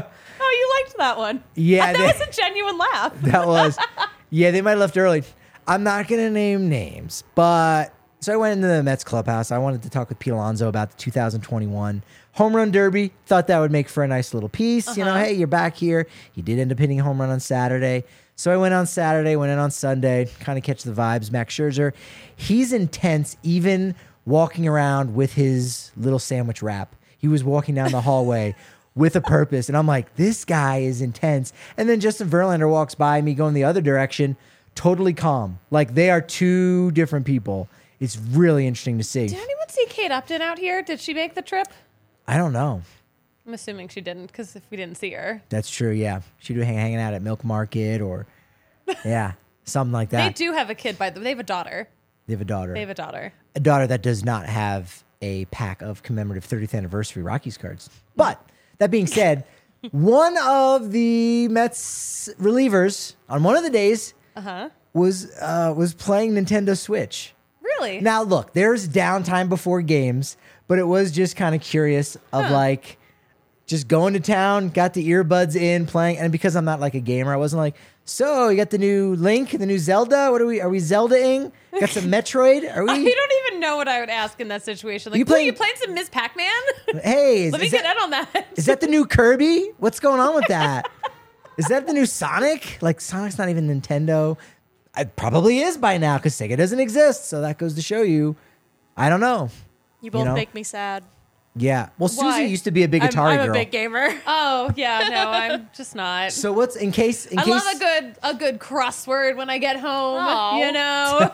S2: you liked that one.
S1: Yeah,
S2: that
S1: they-
S2: was a genuine laugh.
S1: That was, yeah, they might have left early. I'm not going to name names, but so I went into the Mets clubhouse. I wanted to talk with Pete Alonso about the two thousand twenty-one Home Run Derby. Thought that would make for a nice little piece. You know,
S2: Uh-huh.
S1: hey, you're back here. He did end up hitting a home run on Saturday. So I went on Saturday, went in on Sunday, kind of catch the vibes. Max Scherzer, he's intense, even walking around with his little sandwich wrap. He was walking down the hallway with a purpose. And I'm like, this guy is intense. And then Justin Verlander walks by me going the other direction, totally calm. Like they are two different people. It's really interesting to see.
S2: Did anyone see Kate Upton out here? Did she make the trip?
S1: I don't know.
S2: I'm assuming she didn't because if we didn't see her.
S1: That's true. Yeah. She'd be hang- hanging out at Milk Market or, yeah, something like
S2: They
S1: that.
S2: do have a kid, by the way. They have a daughter.
S1: They have a daughter.
S2: They have a daughter.
S1: a daughter that does not have a pack of commemorative thirtieth anniversary Rockies cards. But that being said, one of the Mets relievers on one of the days
S2: Uh-huh.
S1: was uh, was playing Nintendo Switch.
S2: Really?
S1: Now, look, there's downtime before games, but it was just kind of curious of
S2: Huh.
S1: like just going to town, got the earbuds in, playing, and because I'm not like a gamer, I wasn't like, so you got the new Link, the new Zelda. What are we? Are we Zelda-ing? Got some Metroid? Are we?
S2: I don't even know what I would ask in that situation. Like,
S1: You
S2: you,
S1: playing-
S2: you playing some Miss Pac-Man?
S1: Hey, is,
S2: Let me
S1: is
S2: get
S1: that,
S2: in on that.
S1: is that the new Kirby? What's going on with that? Is that the new Sonic? Like Sonic's not even Nintendo. It probably is by now because Sega doesn't exist. So that goes to show you. I don't know.
S10: You both
S1: know?
S10: make me sad.
S1: Yeah. Well,
S2: Why?
S1: Susie used to be a big
S10: I'm,
S1: Atari
S10: I'm
S1: girl.
S10: a big gamer.
S2: Oh yeah, no, I'm just not.
S1: So what's in case? In
S2: I
S1: case,
S2: love a good a good crossword when I get home.
S10: Aw.
S2: You know.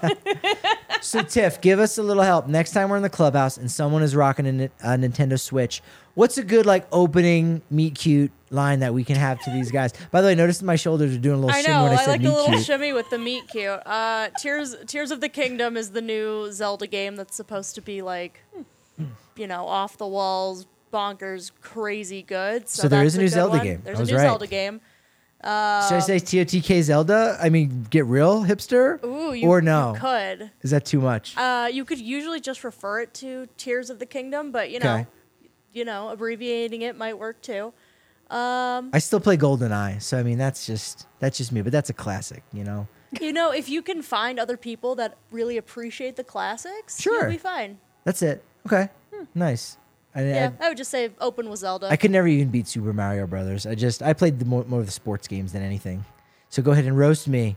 S1: So Tiff, give us a little help. Next time we're in the clubhouse and someone is rocking a, Ni- a Nintendo Switch, what's a good like opening meet cute line that we can have to these guys? By the way, notice my shoulders are doing a little
S10: I
S1: shimmy
S10: know.
S1: when I,
S10: I
S1: said
S10: like the
S1: meet
S10: little
S1: cute.
S10: shimmy with the meat cute. Uh, Tears Tears of the Kingdom is the new Zelda game that's supposed to be like, you know, off the walls, bonkers, crazy good. So,
S1: So there is
S10: that's
S1: a new
S10: good
S1: Zelda
S10: one.
S1: game.
S10: There's
S1: I
S10: a
S1: was
S10: new
S1: right.
S10: Zelda game.
S1: Should I say T O T K Zelda? I mean, get real hipster?
S10: Ooh, you,
S1: or no?
S10: you could.
S1: Is that too much?
S10: Uh, you could usually just refer it to Tears of the Kingdom, but you know,
S1: Okay.
S10: you know, abbreviating it might work too. Um,
S1: I still play GoldenEye, so I mean that's just that's just me, but that's a classic, you know.
S10: you know, if you can find other people that really appreciate the classics,
S1: Sure.
S10: you'll be fine.
S1: That's it. Okay, nice. I,
S10: Yeah,
S1: I,
S10: I would just say open with Zelda.
S1: I could never even beat Super Mario Brothers. I just I played the more, more of the sports games than anything. So go ahead and roast me.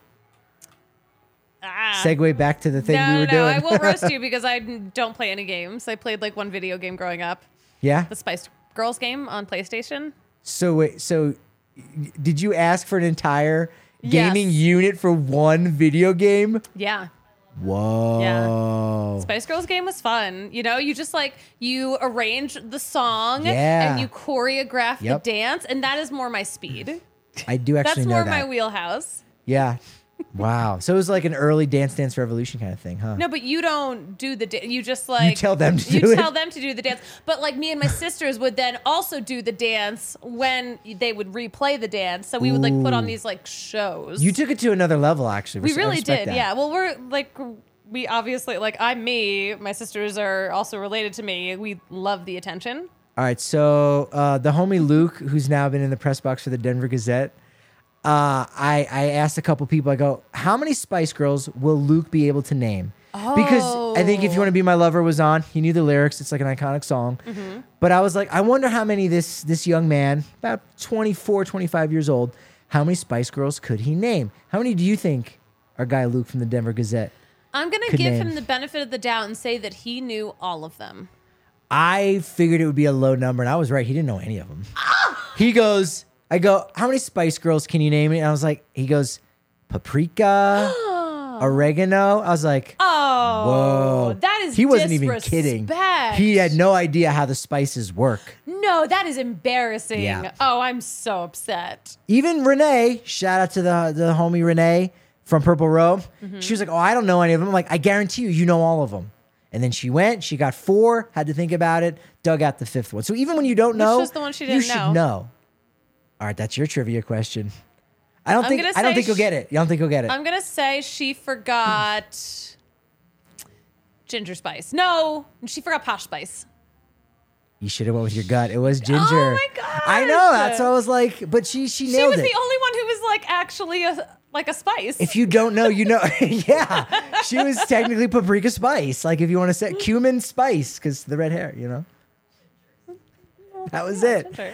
S2: Ah.
S1: Segue back to the thing
S2: no,
S1: we were
S2: no,
S1: doing.
S2: I will roast you because I don't play any games. I played like one video game growing up,
S1: Yeah.
S2: the Spice Girls game on PlayStation.
S1: So wait. So y- did you ask for an entire gaming
S2: Yes.
S1: unit for one video game?
S2: Yeah.
S1: Whoa.
S2: Spice Girls game was fun. You know, you just like you arrange the song
S1: Yeah.
S2: and you choreograph
S1: Yep.
S2: the dance, and that is more my speed.
S1: I do actually
S2: That's
S1: know
S2: more
S1: that.
S2: my wheelhouse.
S1: Yeah. Wow. So it was like an early Dance Dance Revolution kind of thing, huh?
S2: No, but you don't do the da- you just like
S1: tell them to
S2: you
S1: do it?
S2: tell them to do the dance. But like me and my sisters would then also do the dance when they would replay the dance. So we would like put on
S1: Ooh.
S2: these like shows.
S1: You took it to another level, actually.
S2: we
S1: Res- I
S2: really
S1: respect
S2: did,
S1: that.
S2: yeah. Well, we're like we obviously like I'm me. My sisters are also related to me. We love the attention.
S1: All right, so uh, the homie Luke, who's now been in the press box for the Denver Gazette, uh, I, I asked a couple people, I go, how many Spice Girls will Luke be able to name? Because I think If You Want to Be My Lover was on. He knew the lyrics. It's like an iconic song.
S2: Mm-hmm.
S1: But I was like, I wonder how many this this young man, about twenty-four, twenty-five years old, how many Spice Girls could he name? How many do you think our guy Luke from the Denver Gazette?
S2: I'm gonna
S1: Could
S2: give
S1: name.
S2: him the benefit of the doubt and say that he knew all of them.
S1: I figured it would be a low number, and I was right. He didn't know any of them. He goes, I go, how many Spice Girls can you name? And I was like, he goes, paprika, oregano. I was like,
S2: Oh,
S1: whoa.
S2: that is
S1: He wasn't even kidding.
S2: disrespect.
S1: He had no idea how the spices work.
S2: No, that is embarrassing.
S1: Yeah.
S2: Oh, I'm so upset.
S1: Even Renee, shout out to the, the homie Renee from Purple Robe.
S2: Mm-hmm.
S1: She was like, oh, I don't know any of them. I'm like, I guarantee you, you know all of them. And then she went, she got four, had to think about it, dug out the fifth one. So even when you don't
S2: Which
S1: know,
S2: was the one she
S1: you
S2: didn't
S1: should
S2: know.
S1: know. All right, that's your trivia question. I don't
S2: I'm
S1: think
S2: gonna
S1: I don't
S2: say
S1: think you'll
S2: sh-
S1: get it. You don't think you'll get it.
S2: I'm gonna say she forgot ginger spice. No, she forgot posh spice.
S1: You should have went with your gut. It was ginger.
S2: Oh my god!
S1: I know. That's what I was like, but she she
S2: She
S1: nailed
S2: was
S1: it.
S2: the only one who was like actually a like a spice.
S1: If you don't know, you know. Yeah, she was technically paprika spice. Like if you want to say cumin spice, because the red hair, you know. That was it.
S2: Ginger.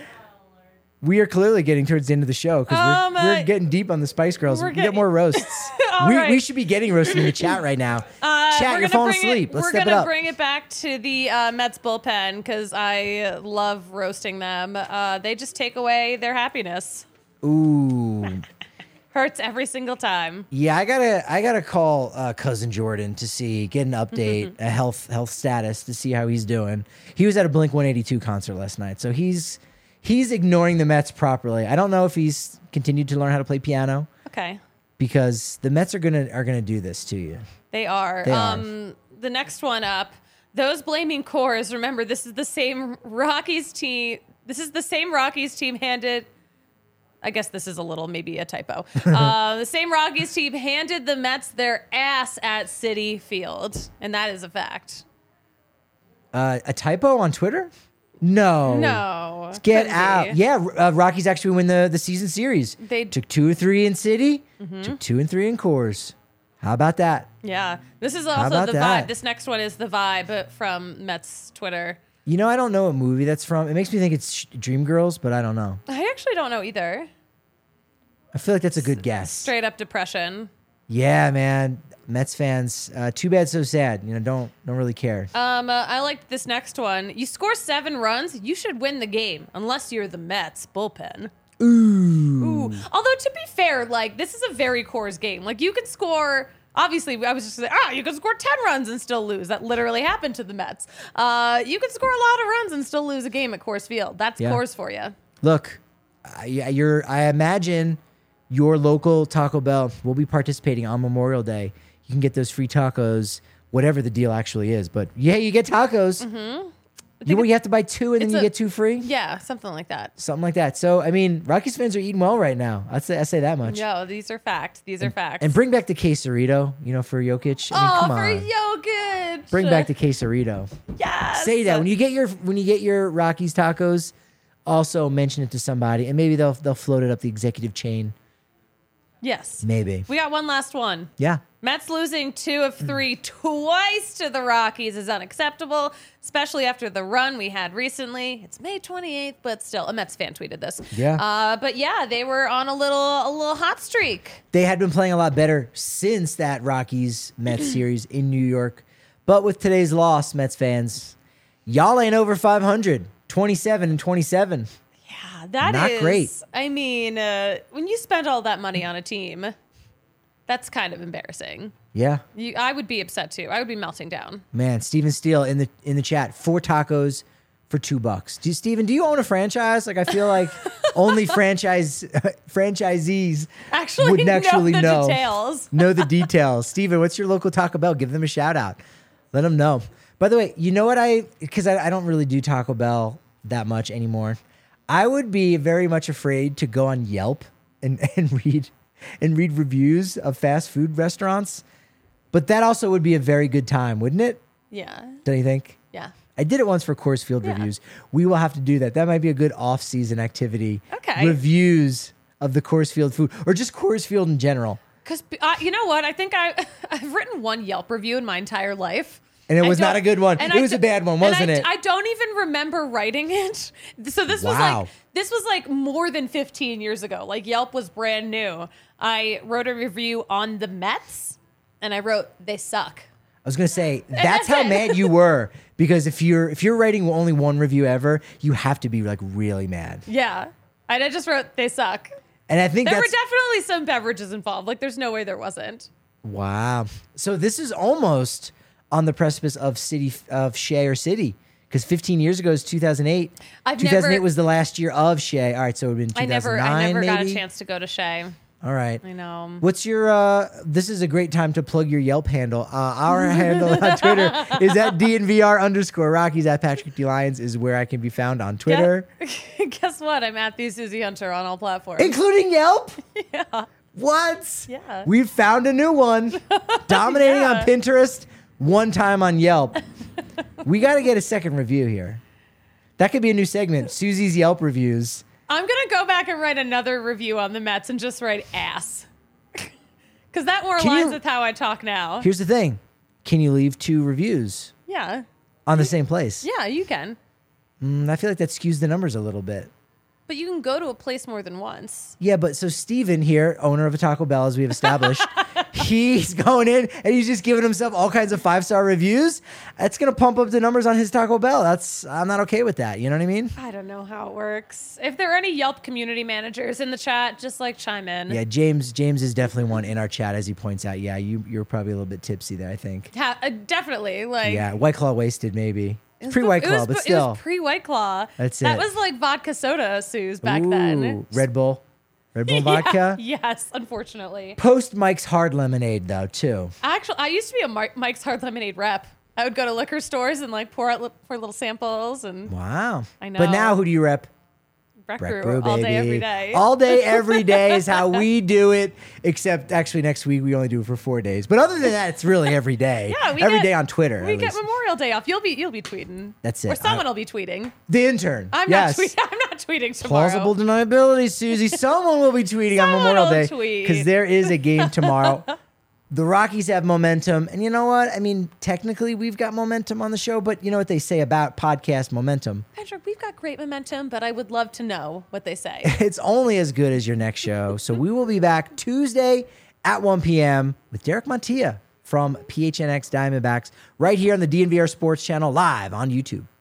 S1: We are clearly getting towards the end of the show because
S2: Um,
S1: we're,
S2: uh,
S1: we're getting deep on the Spice Girls.
S2: we're
S1: We get
S2: getting-
S1: more roasts.
S2: All
S1: we,
S2: right.
S1: we should be getting roasted in the chat right now.
S2: Uh,
S1: chat,
S2: we're
S1: you're
S2: gonna
S1: falling
S2: bring
S1: asleep.
S2: It,
S1: Let's
S2: we're
S1: step it
S2: gonna
S1: up.
S2: bring it back to the uh, Mets bullpen because I love roasting them. Uh, they just take away their happiness.
S1: Ooh.
S2: Hurts every single time.
S1: Yeah, I gotta I gotta call uh, cousin Jordan to see, get an update, a health health status to see how he's doing. He was at a Blink one eighty-two concert last night, so he's he's ignoring the Mets properly. I don't know if he's continued to learn how to play piano
S2: Okay,
S1: because the Mets are gonna are gonna do this to you.
S2: they are.
S1: They are.
S2: um, The next one up, those blaming cores. Remember, this is the same Rockies team. This is the same Rockies team handed. I guess this is a little maybe a typo. Uh, the same Rockies team handed the Mets their ass at Citi Field, and that is a fact.
S1: Uh, a typo on Twitter? No.
S2: No,
S1: Get
S2: couldn't
S1: out.
S2: be.
S1: Yeah, uh, Rockies actually win the, the season series.
S2: They-
S1: took two or three in City,
S2: Mm-hmm.
S1: took two and three in Coors. How about that?
S2: Yeah, this is
S1: How
S2: also
S1: about
S2: the
S1: that?
S2: vibe. This next one is the vibe from Mets Twitter.
S1: You know, I don't know what movie that's from. It makes me think it's Dreamgirls, but I don't know.
S2: I actually don't know either.
S1: I feel like that's a good guess.
S2: Straight up depression.
S1: Yeah, man. Mets fans, uh, too bad, so sad. You know, don't don't really care.
S2: Um, uh, I liked this next one. You score seven runs, you should win the game, unless you're the Mets bullpen.
S1: Ooh.
S2: Ooh. Although to be fair, like this is a very Coors game. Like you could score. Obviously, I was just like, ah, you could score ten runs and still lose. That literally happened to the Mets. Uh, you could score a lot of runs and still lose a game at Coors Field. That's
S1: Yeah.
S2: Coors for you.
S1: Look, I, you're. I imagine your local Taco Bell will be participating on Memorial Day. You can get those free tacos, whatever the deal actually is. But yeah, you get tacos.
S2: Mm-hmm.
S1: You, you have to buy two and then
S2: it's
S1: you
S2: a-
S1: get two free.
S2: Yeah, something like that.
S1: Something like that. So I mean, Rockies fans are eating well right now. I'd say I say that much.
S2: No, these are facts. These are facts.
S1: And bring back the quesarito, you know, for Jokic. I mean,
S2: oh,
S1: come
S2: for
S1: on.
S2: Jokic.
S1: Bring back the quesarito.
S2: Yes.
S1: Say that when you get your when you get your Rockies tacos. Also mention it to somebody, and maybe they'll they'll float it up the executive chain.
S2: Yes.
S1: Maybe.
S2: We got one last one.
S1: Yeah.
S2: Mets losing two of three twice to the Rockies is unacceptable, especially after the run we had recently. It's May twenty-eighth, but still, a Mets fan tweeted this.
S1: Yeah.
S2: Uh, but yeah, they were on a little a little hot streak.
S1: They had been playing a lot better since that Rockies Mets series in New York. But with today's loss, Mets fans, y'all ain't over five hundred. twenty-seven and twenty-seven.
S2: Yeah, that
S1: Not
S2: is-
S1: great.
S2: I mean, uh, when you spend all that money on a team, that's kind of embarrassing.
S1: Yeah.
S2: You, I would be upset too. I would be melting down.
S1: Man, Steven Steele in the in the chat. Four tacos for two bucks. Do you, Steven, do you own a franchise? Like, I feel like only franchise franchisees
S2: Actually
S1: would actually
S2: know the
S1: know,
S2: details.
S1: know the details. Steven, what's your local Taco Bell? Give them a shout out. Let them know. By the way, you know what I, because I, I don't really do Taco Bell that much anymore. I would be very much afraid to go on Yelp and, and read and read reviews of fast food restaurants. But that also would be a very good time, wouldn't it?
S2: Yeah.
S1: Don't you think?
S2: Yeah.
S1: I did it once for Coors Field
S2: Yeah.
S1: reviews. We will have to do that. That might be a good off-season activity.
S2: Okay.
S1: Reviews of the Coors Field food, or just Coors Field in general.
S2: Because uh, you know what? I think I, I've written one Yelp review in my entire life.
S1: And it
S2: I
S1: was not
S2: don't-
S1: a good one.
S2: and
S1: It
S2: I
S1: was a
S2: d-
S1: bad one,
S2: and
S1: wasn't
S2: I,
S1: it?
S2: I don't even remember writing it. So this was
S1: Wow.
S2: like this was like more than fifteen years ago. Like Yelp was brand new. I wrote a review on the Mets, and I wrote they suck.
S1: I was gonna say that's
S2: that's
S1: how
S2: it.
S1: mad you were, because if you're if you're writing only one review ever, you have to be like really mad.
S2: Yeah, and I just wrote they suck.
S1: And I think
S2: There were
S1: that's
S2: definitely some beverages involved. Like there's no way there wasn't.
S1: wow. So this is almost on the precipice of city of Shea or City, because fifteen years ago is two thousand eight.
S2: I've
S1: two thousand eight
S2: never-
S1: was the last year of Shea. All right, so it would have been
S2: I
S1: two thousand nine.
S2: never, I never
S1: maybe?
S2: got a chance to go to Shea.
S1: All right.
S2: I know.
S1: What's your, uh, this is a great time to plug your Yelp handle. Uh, our handle on Twitter is at D N V R underscore Rockies. At Patrick D. Lyons is where I can be found on Twitter,
S2: Yeah. Guess what? I'm at the Susie Hunter on all platforms.
S1: including Yelp.
S2: yeah.
S1: What?
S2: Yeah.
S1: We've found a new one. Dominating
S2: Yeah.
S1: on Pinterest, one time on Yelp. We got to get a second review here. That could be a new segment, Susie's Yelp reviews.
S2: I'm going to go back and write another review on the Mets and just write ass. Because that more
S1: Can
S2: aligns
S1: you-
S2: with how I talk now.
S1: Here's the thing. Can you leave two reviews
S2: Yeah.
S1: on the same place?
S2: Yeah, you can.
S1: Mm, I feel like that skews the numbers a little bit.
S2: But you can go to a place more than once.
S1: Yeah, but so Steven here, owner of a Taco Bell, as we have established, he's going in and he's just giving himself all kinds of five-star reviews. That's going to pump up the numbers on his Taco Bell. That's I'm not okay with that. You know what I mean?
S2: I don't know how it works. If there are any Yelp community managers in the chat, just like chime in.
S1: Yeah, James James is definitely one in our chat, as he points out. Yeah, you, you're probably a little bit tipsy there, I think.
S2: Ha- uh, definitely. Like,
S1: Yeah, White Claw wasted, maybe.
S2: it was
S1: Pre-White
S2: be- it
S1: Claw,
S2: was
S1: but
S2: be-
S1: still.
S2: It was pre-White Claw.
S1: That's
S2: That
S1: it.
S2: was like vodka soda, Suze, back
S1: Ooh,
S2: then.
S1: Red Bull. Red Bull
S2: Yeah,
S1: vodka.
S2: Yes, unfortunately.
S1: Post Mike's Hard Lemonade, though, too.
S2: Actually, I used to be a Mar- Mike's Hard Lemonade rep. I would go to liquor stores and like pour out li- pour little samples and
S1: Wow.
S2: I
S1: But now,
S2: know.
S1: who do you rep?
S2: Breck
S1: Breck
S2: Brew
S1: Brew,
S2: all
S1: baby.
S2: day, every day.
S1: All day, every day is how we do it. Except actually next week we only do it for four days. But other than that, it's really every day.
S2: Yeah, we
S1: every
S2: get-
S1: day on Twitter.
S2: We
S1: at
S2: get
S1: least.
S2: Memorial Day off. You'll be you'll be tweeting.
S1: That's it.
S2: Or someone
S1: I-
S2: will be tweeting.
S1: The intern.
S2: I'm
S1: yes.
S2: not tweeting. I'm not tweeting tomorrow.
S1: Plausible deniability, Susie. Someone will be tweeting on
S2: Someone
S1: Memorial
S2: will
S1: Day
S2: tweet.
S1: because there is a game tomorrow. The Rockies have momentum, and you know what? I mean, technically, we've got momentum on the show, but you know what they say about podcast momentum?
S2: Patrick, we've got great momentum, but I would love to know what they say.
S1: It's only as good as your next show. So we will be back Tuesday at one p.m. with Derek Montilla from P H N X Diamondbacks right here on the D N V R Sports Channel live on YouTube.